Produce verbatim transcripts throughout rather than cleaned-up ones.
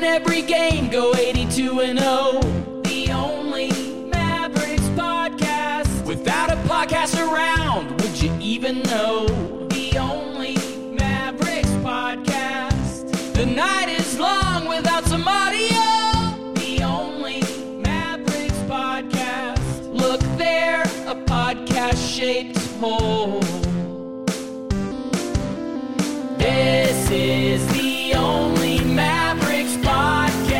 win every game, go eighty-two and oh. The only Mavericks podcast. Without a podcast around, would you even know? The only Mavericks podcast. The night is long without some audio. The only Mavericks podcast. Look there, a podcast-shaped hole. This is the only Mavericks podcast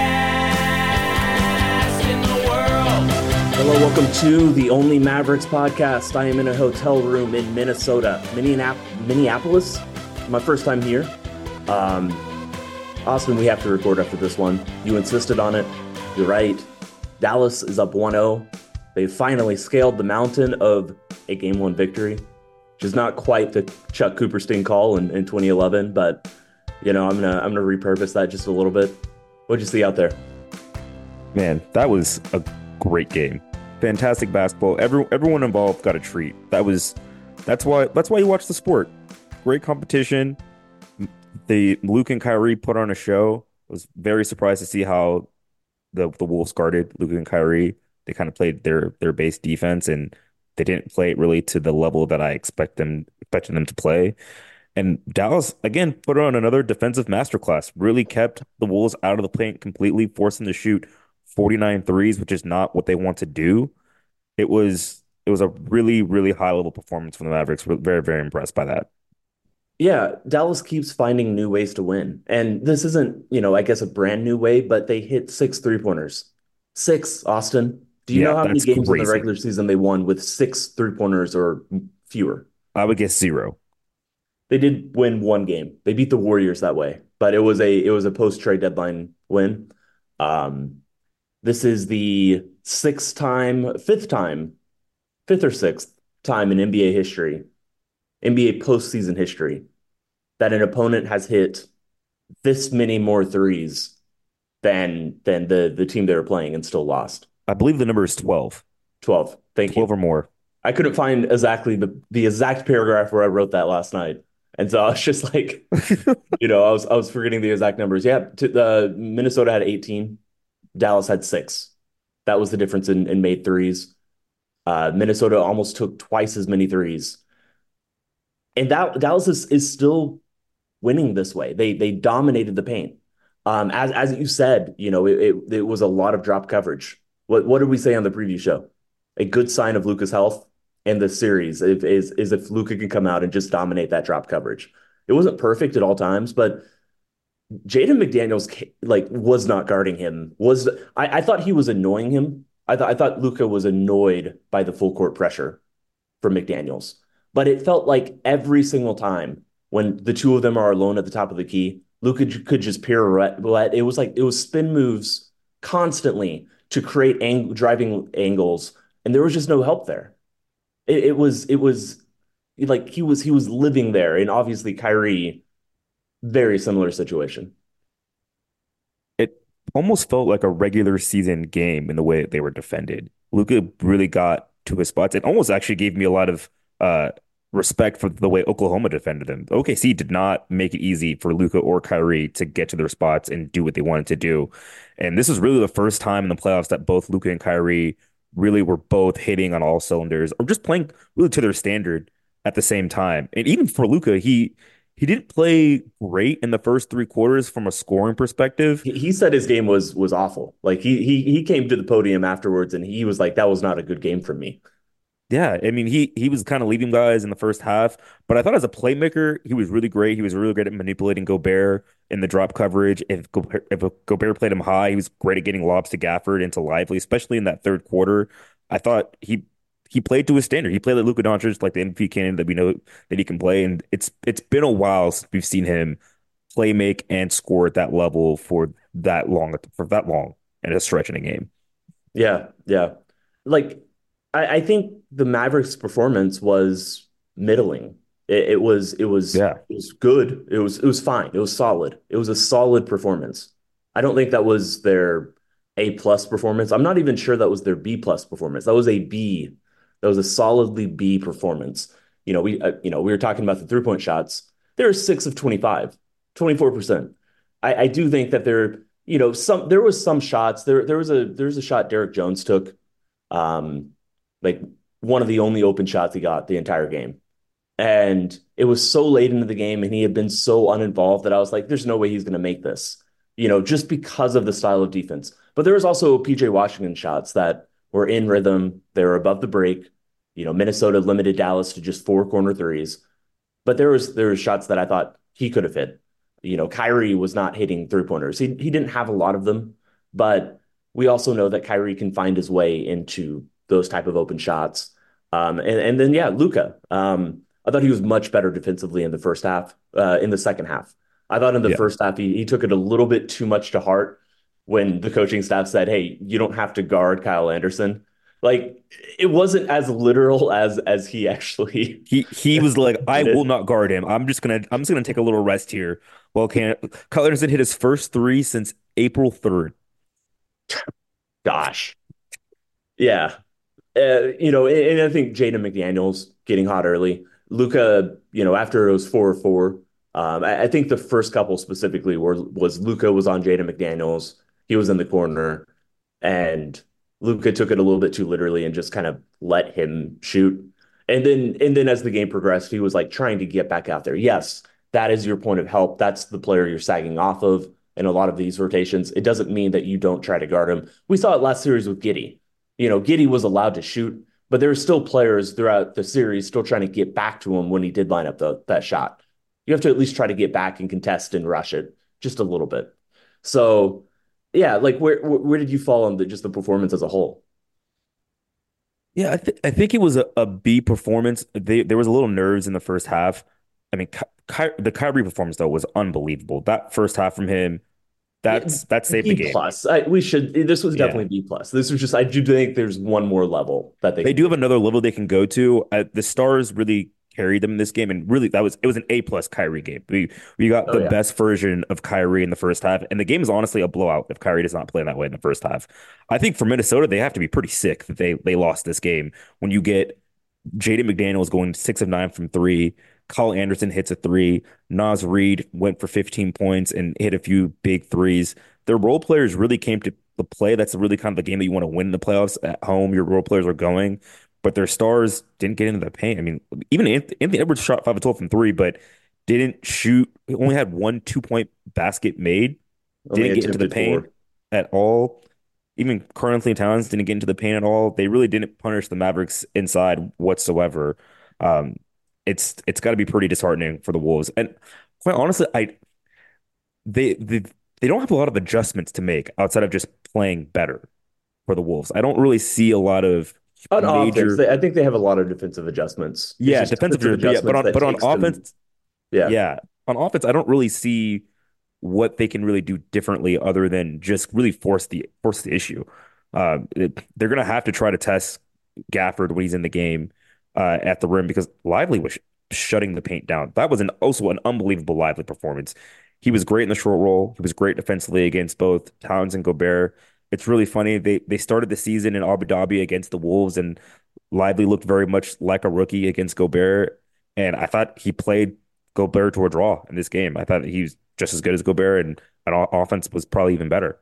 in the world. Hello, welcome to the Only Mavericks podcast. I am in a hotel room in Minnesota, Minneap- Minneapolis. My first time here. Um, Austin, we have to record after this one. You insisted on it. You're right. Dallas is up one oh. They finally scaled the mountain of a game one victory, which is not quite the Chuck Cooperstein call in, in twenty eleven, but you know, I'm gonna I'm gonna repurpose that just a little bit. What'd you see out there? Man, that was a great game. Fantastic basketball. Every, everyone involved got a treat. That was that's why that's why you watch the sport. Great competition. The Luke and Kyrie put on a show. I was very surprised to see how the the Wolves guarded Luke and Kyrie. They kind of played their their base defense, and they didn't play it really to the level that I expect them expected them to play. And Dallas, again, put on another defensive masterclass, really kept the Wolves out of the paint completely, forcing them to shoot forty-nine threes, which is not what they want to do. It was it was a really, really high-level performance from the Mavericks. We're very, very impressed by that. Yeah, Dallas keeps finding new ways to win. And this isn't, you know, I guess a brand new way, but they hit six three-pointers. Six, Austin. Do you Yeah, know how many that's games in the crazy. regular season they won with six three-pointers or fewer? I would guess zero. They did win one game. They beat the Warriors that way, but it was a it was a post-trade deadline win. Um, this is the sixth time, fifth time, fifth or sixth time in N B A history, N B A postseason history, that an opponent has hit this many more threes than than the the team they were playing and still lost. I believe the number is twelve. twelve. Thank twelve you. or more. I couldn't find exactly the the exact paragraph where I wrote that last night. And so I was just like, you know, I was I was forgetting the exact numbers. Yeah, to, the Minnesota had eighteen, Dallas had six. That was the difference in, in made threes. Uh, Minnesota almost took twice as many threes. And that Dallas is, is still winning this way. They they dominated the paint. Um, as as you said, you know, it, it it was a lot of drop coverage. What what did we say on the preview show? A good sign of Luka's health in the series if, is is if Luka can come out and just dominate that drop coverage. It wasn't perfect at all times, but Jaden McDaniels like was not guarding him. Was I, I thought he was annoying him. I thought I thought Luka was annoyed by the full court pressure from McDaniels. But it felt like every single time when the two of them are alone at the top of the key, Luka could just pirouette. It was like it was spin moves constantly to create ang- driving angles, and there was just no help there. It, it was it was like he was he was living there, and obviously Kyrie, very similar situation. It almost felt like a regular season game in the way that they were defended. Luka really got to his spots. It almost actually gave me a lot of uh, respect for the way Oklahoma defended them. O K C did not make it easy for Luka or Kyrie to get to their spots and do what they wanted to do. And this is really the first time in the playoffs that both Luka and Kyrie really were both hitting on all cylinders or just playing really to their standard at the same time. And even for Luka, he he didn't play great in the first three quarters from a scoring perspective. He, he said his game was was awful. Like he he he came to the podium afterwards and he was like, that was not a good game from me. Yeah, I mean, he he was kind of leading guys in the first half, but I thought as a playmaker, he was really great. He was really great at manipulating Gobert in the drop coverage. If Gobert, if Gobert played him high, he was great at getting lobs to Gafford into Lively, especially in that third quarter. I thought he he played to his standard. He played like Luka Doncic, like the M V P candidate that we know that he can play. And it's it's been a while since we've seen him play, make, and score at that level for that long for that long in a stretch in a game. Yeah, yeah. Like I, I think the Mavericks' performance was middling. It, it was it was Yeah. it was good. It was it was fine. It was solid. It was a solid performance. I don't think that was their A plus performance. I'm not even sure that was their B plus performance. That was a B. That was a solidly B performance. You know, we uh, you know we were talking about the three point shots. They're six of twenty-five, twenty-four percent. I, I do think that they're you know, some there was some shots. There there was a there was a shot Derek Jones took, um, like one of the only open shots he got the entire game. And it was so late into the game and he had been so uninvolved that I was like, there's no way he's going to make this, you know, just because of the style of defense. But there was also P J Washington shots that were in rhythm. They were above the break. You know, Minnesota limited Dallas to just four corner threes. But there was there was shots that I thought he could have hit. You know, Kyrie was not hitting three pointers. He he didn't have a lot of them, but we also know that Kyrie can find his way into those type of open shots. Um, and and then yeah, Luka. Um, I thought he was much better defensively in the first half. Uh, in the second half, I thought in the Yeah. first half he he took it a little bit too much to heart when the coaching staff said, "Hey, you don't have to guard Kyle Anderson." Like it wasn't as literal as as he actually He he was like, I did will it. not guard him. I'm just gonna I'm just gonna take a little rest here. Well, can Kyle Anderson hit his first three since April third. Gosh, yeah. Uh, you know, and, and I think Jaden McDaniels getting hot early. Luca, you know, after it was four or four, um, I, I think the first couple specifically were was Luca was on Jaden McDaniels. He was in the corner, and Luca took it a little bit too literally and just kind of let him shoot. And then and then as the game progressed, he was like trying to get back out there. Yes, that is your point of help. That's the player you're sagging off of in a lot of these rotations. It doesn't mean that you don't try to guard him. We saw it last series with Giddy. You know, Giddy was allowed to shoot, but there were still players throughout the series still trying to get back to him when he did line up the, that shot. You have to at least try to get back and contest and rush it just a little bit. So, yeah, like where where did you fall on the just the performance as a whole? Yeah, I, th I think it was a, a B performance. They, there was a little nerves in the first half. I mean, Ky Ky the Kyrie performance though was unbelievable. That first half from him, Yeah, that's that saved the B game. plus. I, we should. This was Yeah. definitely B plus. This was just. I do think there's one more level that they They can do get. have another level they can go to. Uh, the Stars really carried them in this game, and really that was it was an A plus Kyrie game. We we got Oh the yeah. best version of Kyrie in the first half, and the game is honestly a blowout if Kyrie does not play that way in the first half. I think for Minnesota, they have to be pretty sick that they they lost this game when you get Jaden McDaniels going six of nine from three. Kyle Anderson hits a three. Naz Reid went for fifteen points and hit a few big threes. Their role players really came to the play. That's really kind of the game that you want to win in the playoffs at home. Your role players are going, but their stars didn't get into the paint. I mean, even Anthony, Anthony Edwards shot five of twelve from three, but didn't shoot. He only had one two point basket made. Only Didn't get into the attempted paint four. at all. Even Karl-Anthony Towns didn't get into the paint at all. They really didn't punish the Mavericks inside whatsoever. Um, it's it's got to be pretty disheartening for the Wolves. And quite honestly, I they they they don't have a lot of adjustments to make outside of just playing better for the Wolves. I don't really see a lot of On offense, major, they, I think they have a lot of defensive adjustments. It's yeah, just defensive, defensive but yeah, but adjustments on that but on takes them. offense, Yeah. yeah, on offense, I don't really see what they can really do differently other than just really force the force the issue. Uh, it, they're gonna have to try to test Gafford when he's in the game uh, at the rim because Lively was sh shutting the paint down. That was an also an unbelievable Lively performance. He was great in the short roll. He was great defensively against both Towns and Gobert. It's really funny. They they started the season in Abu Dhabi against the Wolves, and Lively looked very much like a rookie against Gobert. And I thought he played Gobert to a draw in this game. I thought he was just as good as Gobert, and an offense was probably even better.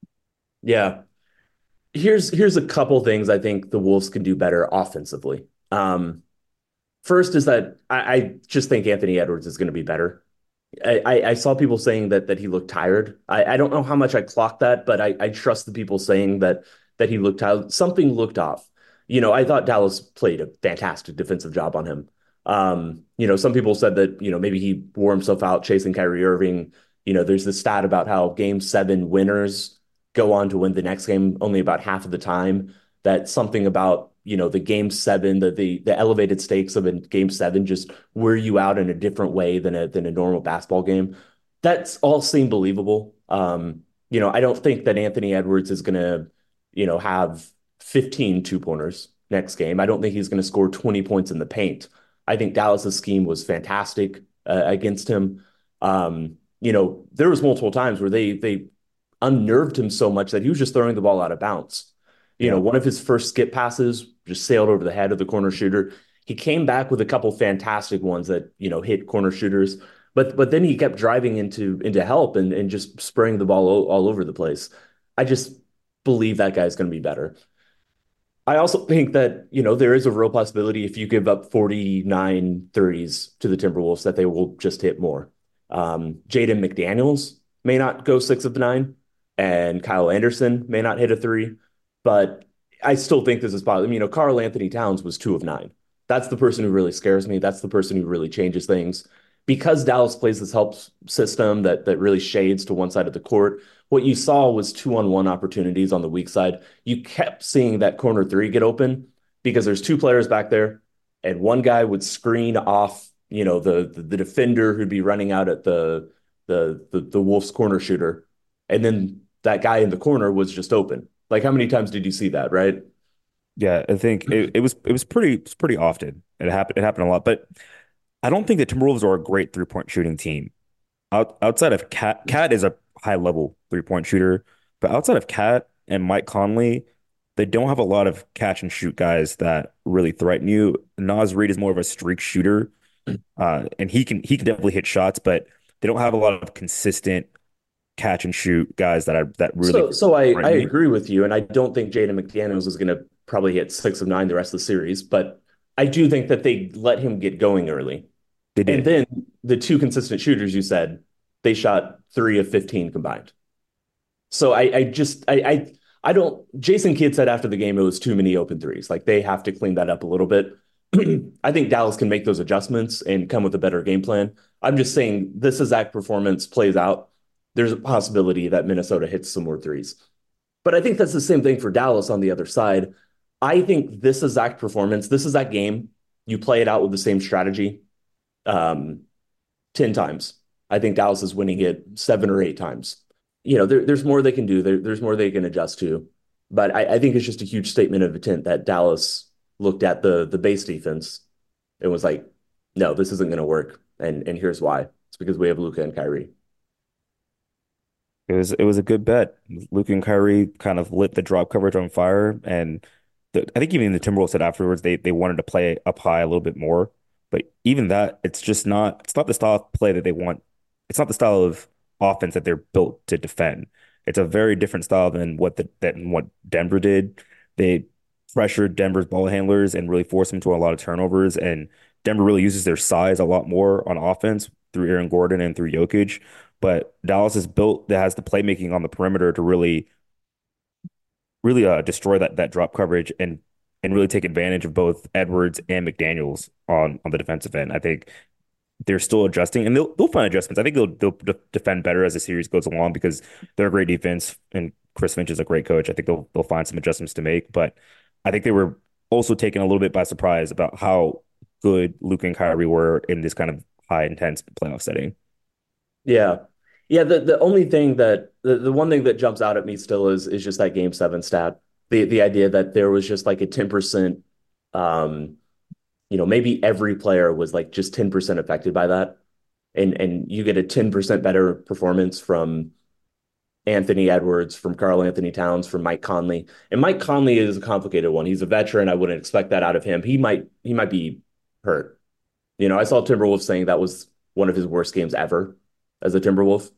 Yeah. Here's here's a couple things I think the Wolves can do better offensively. Um, first is that I, I just think Anthony Edwards is going to be better. I, I, I saw people saying that that he looked tired. I, I don't know how much I clocked that, but I, I trust the people saying that that he looked tired. Something looked off. You know, I thought Dallas played a fantastic defensive job on him. Um, you know, some people said that, you know, maybe he wore himself out chasing Kyrie Irving. You know, there's this stat about how game seven winners go on to win the next game only about half of the time. That something about, you know, the game seven, the the the elevated stakes of a game seven just wear you out in a different way than a than a normal basketball game. That's all seemed believable. Um, you know, I don't think that Anthony Edwards is gonna, you know, have fifteen two pointers next game. I don't think he's going to score twenty points in the paint. I think Dallas's scheme was fantastic uh, against him. Um, you know, there was multiple times where they they unnerved him so much that he was just throwing the ball out of bounds. You know, Yeah. one of his first skip passes just sailed over the head of the corner shooter. He came back with a couple fantastic ones that, you know, hit corner shooters. But but then he kept driving into into help and and just spraying the ball all, all over the place. I just believe that guy's going to be better. I also think that, you know, there is a real possibility if you give up forty-nine threes to the Timberwolves that they will just hit more. Um, Jaden McDaniels may not go six of nine, and Kyle Anderson may not hit a three, but I still think this is possible. You know, Karl Anthony Towns was two of nine. That's the person who really scares me. That's the person who really changes things. Because Dallas plays this help system that that really shades to one side of the court, what you saw was two on one opportunities on the weak side. You kept seeing that corner three get open because there's two players back there, and one guy would screen off, you know, the the, the defender who'd be running out at the, the the the Wolves corner shooter, and then that guy in the corner was just open. Like how many times did you see that, right? Yeah, I think it, it was it was pretty it was pretty often. It happened it happened a lot, but I don't think the Timberwolves are a great three point shooting team. Out, outside of Cat, Cat is a high level three point shooter, but outside of Cat and Mike Conley, they don't have a lot of catch and shoot guys that really threaten you. Naz Reid is more of a streak shooter, uh, and he can he can definitely hit shots, but they don't have a lot of consistent catch and shoot guys that are that really So, so I, I threaten me. agree with you, and I don't think Jaden McDaniels is going to probably hit six of nine the rest of the series, but I do think that they let him get going early. They And did. then the two consistent shooters you said, they shot three of fifteen combined. So I, I just, I, I, I don't, Jason Kidd said after the game, it was too many open threes. Like they have to clean that up a little bit. I think Dallas can make those adjustments and come with a better game plan. I'm just saying this exact performance plays out. There's a possibility that Minnesota hits some more threes. But I think that's the same thing for Dallas on the other side. I think this exact performance, this is that game. You play it out with the same strategy um, ten times. I think Dallas is winning it seven or eight times. You know, there, there's more they can do. There, there's more they can adjust to. But I, I think it's just a huge statement of intent that Dallas looked at the the base defense and was like, no, this isn't going to work. And and here's why. It's because we have Luka and Kyrie. It was it was a good bet. Luke and Kyrie kind of lit the drop coverage on fire, and the, I think even the Timberwolves said afterwards they they wanted to play up high a little bit more. But even that, it's just not it's not the style of play that they want. It's not the style of offense that they're built to defend. It's a very different style than what the than what Denver did. They pressured Denver's ball handlers and really forced them to a lot of turnovers. And Denver really uses their size a lot more on offense through Aaron Gordon and through Jokic. But Dallas is built that has the playmaking on the perimeter to really, really uh, destroy that that drop coverage and and really take advantage of both Edwards and McDaniels on on the defensive end. I think they're still adjusting and they'll they'll find adjustments. I think they'll they'll de- defend better as the series goes along because they're a great defense and Chris Finch is a great coach. I think they'll they'll find some adjustments to make, but I think they were also taken a little bit by surprise about how good Luke and Kyrie were in this kind of high intense playoff setting. Yeah. Yeah, the, the only thing that the, the one thing that jumps out at me still is is just that game seven stat. The the idea that there was just like a ten percent um, you know, maybe every player was like just ten percent affected by that. And and you get a ten percent better performance from Anthony Edwards, from Karl Anthony Towns, from Mike Conley. And Mike Conley is a complicated one. He's a veteran. I wouldn't expect that out of him. He might he might be hurt. You know, I saw Timberwolves saying that was one of his worst games ever as a Timberwolf.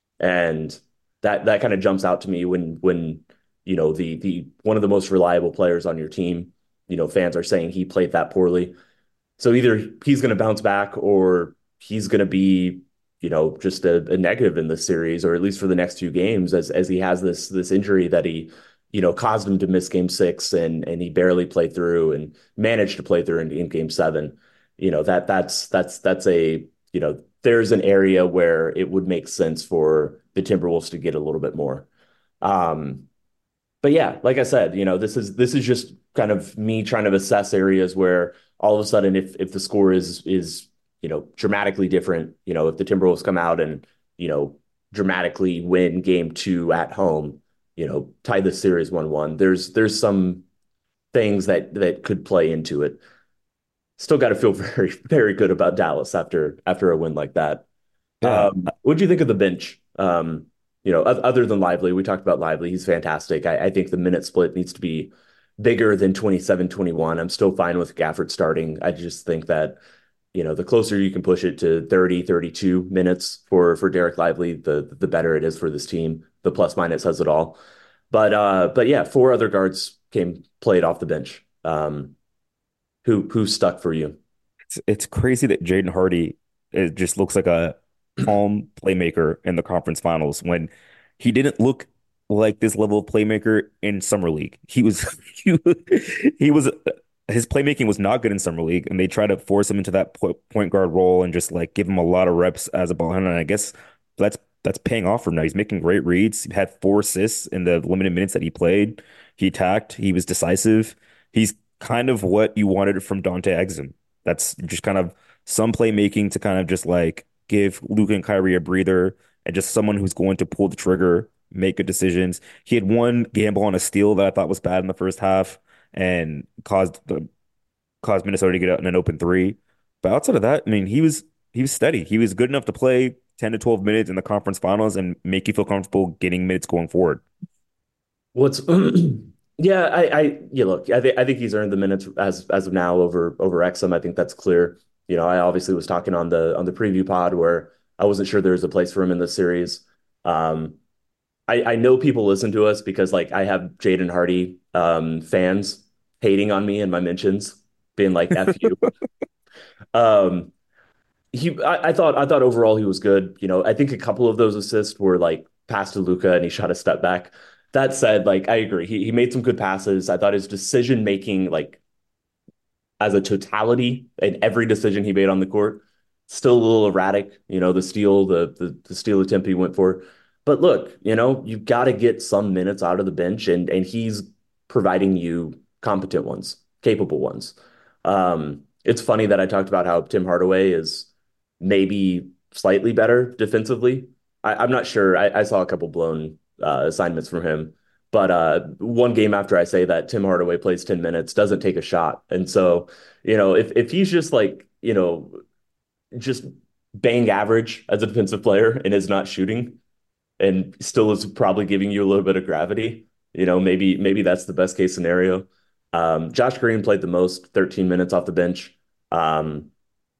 And that that kind of jumps out to me when when you know the the one of the most reliable players on your team, you know, fans are saying he played that poorly. So either he's going to bounce back or he's going to be, you know, just a, a negative in this series, or at least for the next two games, as as he has this this injury that he, you know, caused him to miss game six and and he barely played through and managed to play through in, in game seven. You know, that that's that's that's a, you know, there's an area where it would make sense for the Timberwolves to get a little bit more. Um, but yeah, like I said, you know, this is this is just kind of me trying to assess areas where all of a sudden, if if the score is is you know dramatically different, you know, if the Timberwolves come out and you know dramatically win game two at home, you know, tie the series one one, there's there's some things that that could play into it. Still got to feel very very good about Dallas after after a win like that. Yeah. Um, what do you think of the bench? Um, you know, other than Lively, we talked about Lively. He's fantastic. I, I think the minute split needs to be bigger than twenty-seven twenty-one. I'm still fine with Gafford starting. I just think that, you know, the closer you can push it to thirty, thirty-two minutes for for Derek Lively, the the better it is for this team. The plus minus has it all. But uh, but yeah, four other guards came played off the bench. Um, who who stuck for you? It's it's crazy that Jaden Hardy it just looks like a calm playmaker in the conference finals when he didn't look like this level of playmaker in summer league. He was he, was- he was his playmaking was not good in summer league, and they tried to force him into that po- point guard role and just like give him a lot of reps as a ball handler. And I guess that's that's paying off for him now. He's making great reads. He had four assists in the limited minutes that he played. He attacked. He was decisive. He's kind of what you wanted from Dante Exum. That's just kind of some playmaking to kind of just like give Luka and Kyrie a breather and just someone who's going to pull the trigger, make good decisions. He had one gamble on a steal that I thought was bad in the first half and caused the caused Minnesota to get out in an open three. But outside of that, I mean, he was he was steady. He was good enough to play ten to twelve minutes in the conference finals and make you feel comfortable getting minutes going forward. What's yeah, I I yeah, look, I think I think he's earned the minutes as as of now over over Exum. I think that's clear. You know, I obviously was talking on the on the preview pod where I wasn't sure there was a place for him in this series. Um, I I know people listen to us because like I have Jaden Hardy um fans hating on me in my mentions, being like F you. Um, he I, I thought I thought overall he was good. You know, I think a couple of those assists were like pass to Luca and he shot a step back. That said, like I agree. He he made some good passes. I thought his decision making, like as a totality, and every decision he made on the court, still a little erratic. You know, the steal, the the, the steal attempt he went for. But look, you know, you've got to get some minutes out of the bench, and and he's providing you competent ones, capable ones. Um, it's funny that I talked about how Tim Hardaway is maybe slightly better defensively. I, I'm not sure. I, I saw a couple blown uh, assignments from him, but uh, one game after I say that, Tim Hardaway plays ten minutes, doesn't take a shot, and so you know if if he's just like you know just bang average as a defensive player and is not shooting and still is probably giving you a little bit of gravity, you know maybe maybe that's the best case scenario. Um, Josh Green played the most, thirteen minutes off the bench. Um,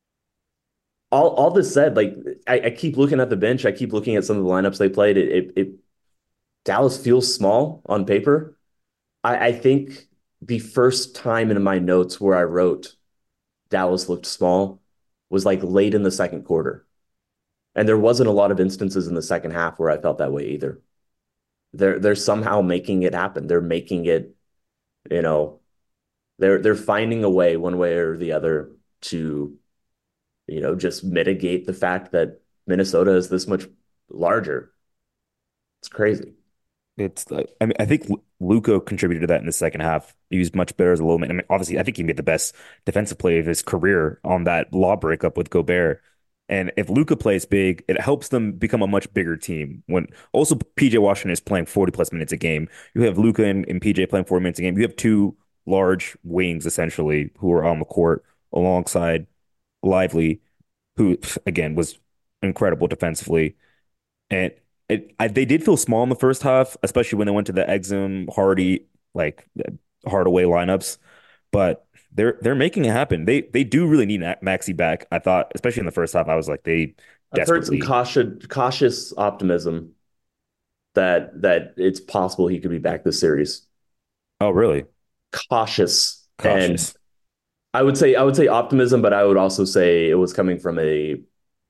all all this said, like I, I keep looking at the bench, I keep looking at some of the lineups they played. It, it, it Dallas feels small on paper. I, I think the first time in my notes where I wrote Dallas looked small was like late in the second quarter. And there wasn't a lot of instances in the second half where I felt that way either. They're they're somehow making it happen. They're making it, you know, they're they're finding a way one way or the other to, you know, just mitigate the fact that Minnesota is this much larger. It's crazy. It's like I mean I think Luca contributed to that in the second half. He was much better as a low man. I mean, obviously, I think he made the best defensive play of his career on that law breakup with Gobert. And if Luca plays big, it helps them become a much bigger team. When also P J Washington is playing forty plus minutes a game. You have Luca and, and P J playing forty minutes a game. You have two large wings essentially who are on the court alongside Lively, who again was incredible defensively. And it, I, they did feel small in the first half, especially when they went to the Exum, Hardy, like Hardaway lineups. But they're they're making it happen. They they do really need Maxi back. I thought, especially in the first half, I was like, they I've heard some desperately. cautious cautious optimism that that it's possible he could be back this series. Oh, really? Cautious. And Cautious. I would say I would say optimism, but I would also say it was coming from a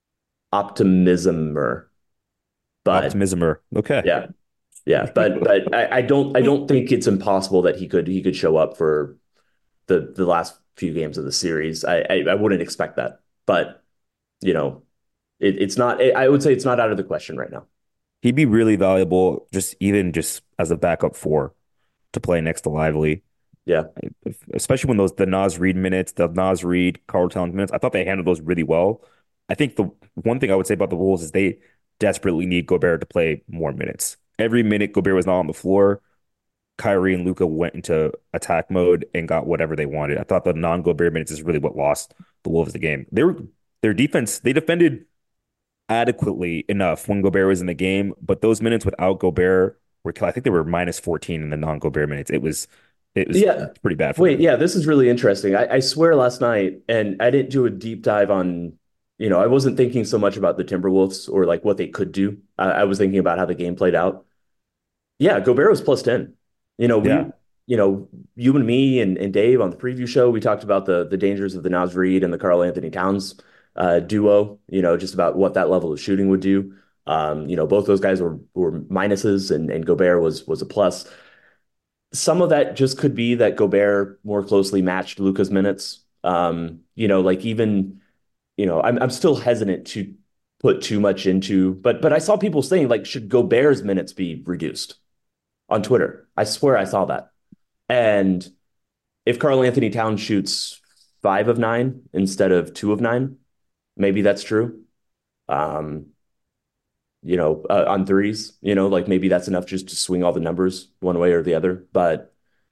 optimismer. But Optimismer. Okay. yeah, yeah. But but I, I don't I don't think it's impossible that he could he could show up for the the last few games of the series. I I, I wouldn't expect that. But you know, it, it's not I would say it's not out of the question right now. He'd be really valuable, just even just as a backup four to play next to Lively. Yeah. Especially when those the Naz Reid minutes, the Naz Reid, Carl Towns minutes. I thought they handled those really well. I think the one thing I would say about the Wolves is they desperately need Gobert to play more minutes. Every minute Gobert was not on the floor, Kyrie and Luca went into attack mode and got whatever they wanted. I thought the non-Gobert minutes is really what lost the Wolves the game. They were their defense, they defended adequately enough when Gobert was in the game, but those minutes without Gobert were I think they were minus fourteen in the non-Gobert minutes. It was It was Yeah. pretty bad for Wait, them. yeah, this is really interesting. I, I swear last night, and I didn't do a deep dive on, you know, I wasn't thinking so much about the Timberwolves or like what they could do. I, I was thinking about how the game played out. Yeah, Gobert was plus ten. You know, Yeah, we, you know, you and me and, and Dave on the preview show, we talked about the the dangers of the Naz Reid and the Karl Anthony Towns uh, duo, you know, just about what that level of shooting would do. Um, you know, both those guys were were minuses and, and Gobert was was a plus. Some of that just could be that Gobert more closely matched Luka's minutes. Um, you know, like even, you know, I'm I'm still hesitant to put too much into, but but I saw people saying like, should Gobert's minutes be reduced on Twitter? I swear I saw that. And if Karl Anthony Towns shoots five of nine instead of two of nine, maybe that's true. Um, you know, uh, on threes, you know, like maybe that's enough just to swing all the numbers one way or the other. But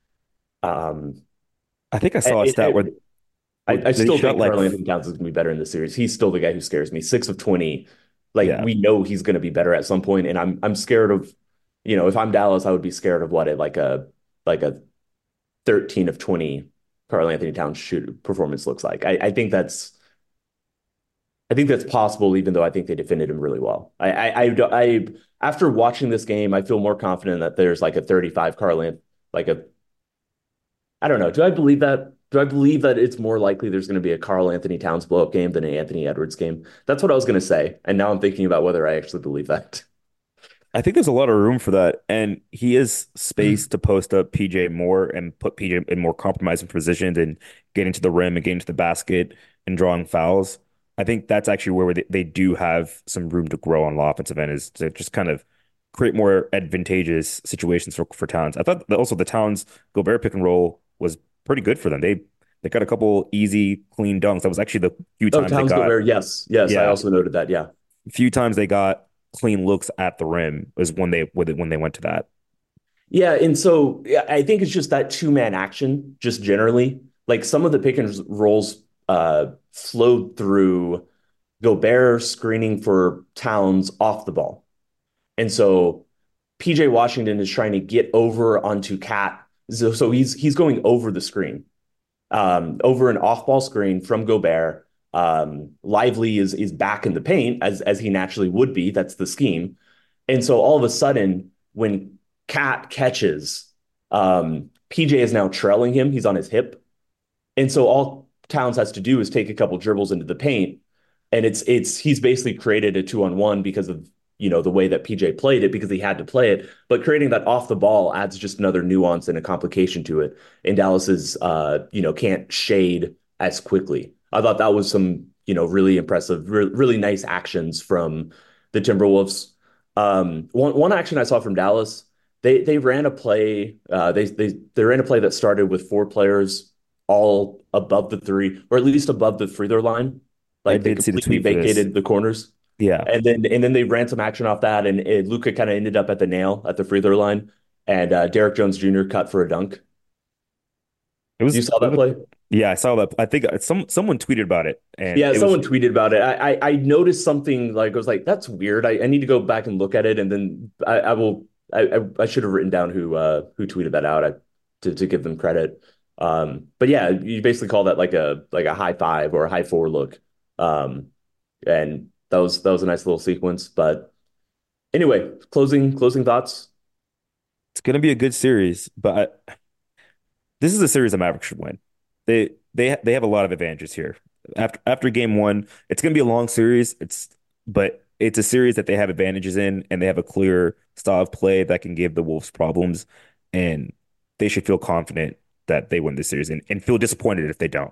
um, I think I saw a it, stat where, it, I, where I they still shot think like, Karl Anthony Towns is going to be better in the series. He's still the guy who scares me. Six of twenty, like yeah, we know he's going to be better at some point, and I'm I'm scared of, you know, if I'm Dallas, I would be scared of what it like a like a thirteen of twenty Karl Anthony Towns shoot performance looks like. I, I think that's I think that's possible, even though I think they defended him really well. I I I, I after watching this game, I feel more confident that there's like a thirty-five Karl Anthony, like a I don't know. Do I believe that? Do I believe that it's more likely there's going to be a Karl Anthony Towns blow up game than an Anthony Edwards game? That's what I was going to say. And now I'm thinking about whether I actually believe that. I think there's a lot of room for that. And he is space to post up P J more and put P J in more compromising positions and getting to the rim and getting to the basket and drawing fouls. I think that's actually where they, they do have some room to grow on the offensive end is to just kind of create more advantageous situations for, for Towns. I thought that also the Towns Gobert pick and roll was pretty good for them. They they got a couple easy, clean dunks. That was actually the few Oh, times they Towns got, Gobert. Yes. Yes. I yeah, also noted that. Yeah. few times they got clean looks at the rim was when they when they went to that. Yeah. And so yeah, I think it's just that two man action, just generally. Like some of the pick and rolls uh, flowed through Gobert screening for Towns off the ball. And so P J Washington is trying to get over onto Cat. So, so he's he's going over the screen, um, over an off-ball screen from Gobert. Um, Lively is is back in the paint as as he naturally would be. That's the scheme. And so all of a sudden, when Cat catches, um, P J is now trailing him. He's on his hip. And so all Towns has to do is take a couple dribbles into the paint, and it's it's he's basically created a two on one because of you know the way that P J played it because he had to play it. But creating that off the ball adds just another nuance and a complication to it. And Dallas's uh you know can't shade as quickly. I thought that was some you know really impressive, re- really nice actions from the Timberwolves. Um, one one action I saw from Dallas. They they ran a play. Uh, they they they ran a play that started with four players all above the three, or at least above the free throw line. I Like they did see the completely tweet for this. vacated the corners. Yeah, And then and then they ran some action off that, and it, Luca kind of ended up at the nail at the free throw line, and uh, Derek Jones Junior cut for a dunk. it was, You it saw that was play? yeah, I saw that. I think some someone tweeted about it, and Yeah, it was someone tweeted about it. I I, I noticed something like I was like, that's weird. I, I need to go back and look at it, and then I, I will. I, I I should have written down who uh who tweeted that out I, to to give them credit. Um, but yeah, you basically call that like a like a high five or a high four look. Um, and that was that was a nice little sequence. But anyway, closing closing thoughts. it's going to be a good series. But I, this is a series the Mavericks should win. They they they have a lot of advantages here. After after game one, it's going to be a long series. It's but it's a series that they have advantages in, and they have a clear style of play that can give the Wolves problems, and they should feel confident that they win this series and, and feel disappointed if they don't.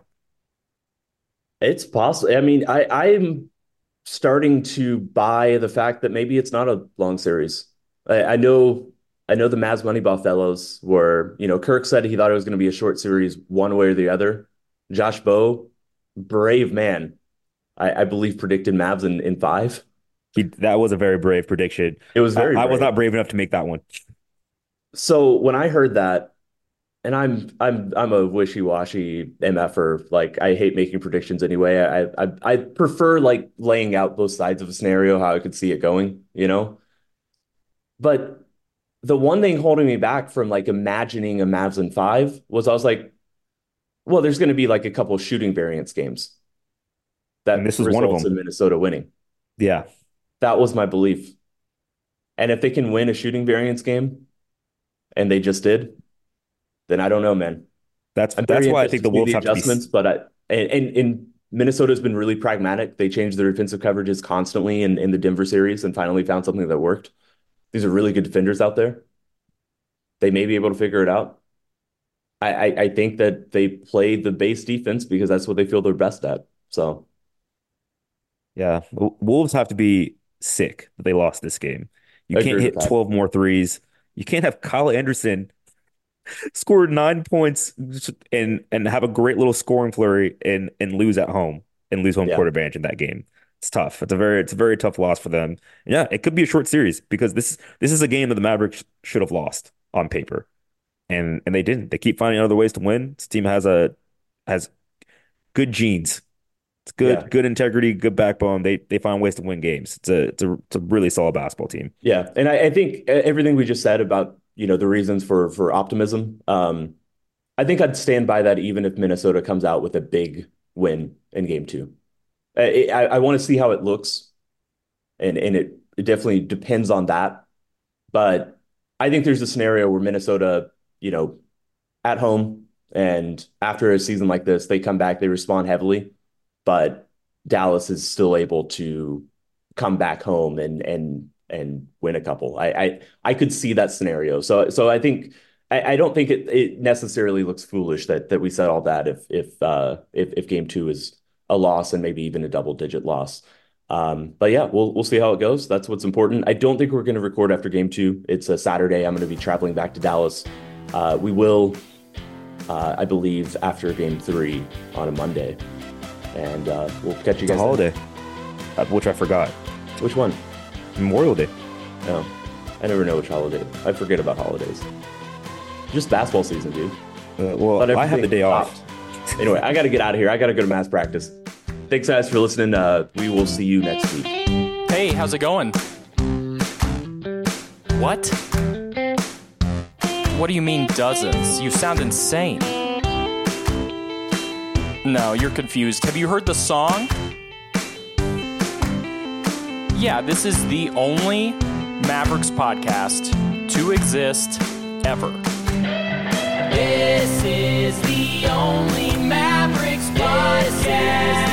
It's possible. I mean, I I'm starting to buy the fact that maybe it's not a long series. I, I know I know the Mavs Moneyball fellows were, you know, Kirk said he thought it was going to be a short series one way or the other. Josh Bowe, brave man, I, I believe predicted Mavs in, in five. He that was a very brave prediction. It was I, very I was brave. not brave enough to make that one. So when I heard that, and I'm I'm I'm a wishy-washy M F er, like I hate making predictions anyway. I, I I prefer like laying out both sides of a scenario, how I could see it going, you know? But the one thing holding me back from like imagining a Mavs in five was I was like, well, there's going to be like a couple of shooting variance games that And this was one of results them. in Minnesota winning. Yeah. That was my belief. And if they can win a shooting variance game, and they just did, then I don't know, man. That's I'm that's very why I interested think the to see Wolves the have to be. adjustments, but I, and, and, and Minnesota's been really pragmatic. They changed their defensive coverages constantly in, in the Denver series and finally found something that worked. These are really good defenders out there. They may be able to figure it out. I, I, I think that they play the base defense because that's what they feel they're best at. So Yeah, W- Wolves have to be sick that they lost this game. You I can't agree with hit that. twelve more threes. You can't have Kyle Anderson score nine points and and have a great little scoring flurry and and lose at home and lose home Yeah. court advantage in that game. It's tough. It's a very it's a very tough loss for them. And yeah, it could be a short series because this this is a game that the Mavericks should have lost on paper, and and they didn't. They keep finding other ways to win. This team has a has good genes. It's Yeah. good, good integrity, good backbone. They they find ways to win games. It's a it's a it's a really solid basketball team. Yeah. And I, I think e, everything we just said about, you know, the reasons for for optimism, um, I think I'd stand by that even if Minnesota comes out with a big win in game two. I, I, I want to see how it looks, and and it, it definitely depends on that. But I think there's a scenario where Minnesota, you know, at home and after a season like this, they come back, they respond heavily, but Dallas is still able to come back home and and and win a couple. I I, I could see that scenario. So so I think I, I don't think it, it necessarily looks foolish that that we said all that if if uh if if game two is a loss and maybe even a double digit loss. Um, but yeah, we'll we'll see how it goes. That's what's important. I don't think we're going to record after game two. It's a Saturday. I'm going to be traveling back to Dallas. Uh, we will, uh, I believe, after game three on a Monday, and uh, we'll catch you It's a guys. holiday, uh, which I forgot. Then. Which one? Memorial Day. No, I never know which holiday. I forget about holidays. Just basketball season, dude. Uh, well, But I have the everything day off. stopped. Anyway, I got to get out of here. I got to go to mass practice. Thanks, guys, for listening. Uh, we will see you next week. Hey, how's it going? What? What do you mean dozens? You sound insane. No, you're confused. Have you heard the song? Yeah, this is the only Mavericks podcast to exist ever. This is the only Mavericks podcast.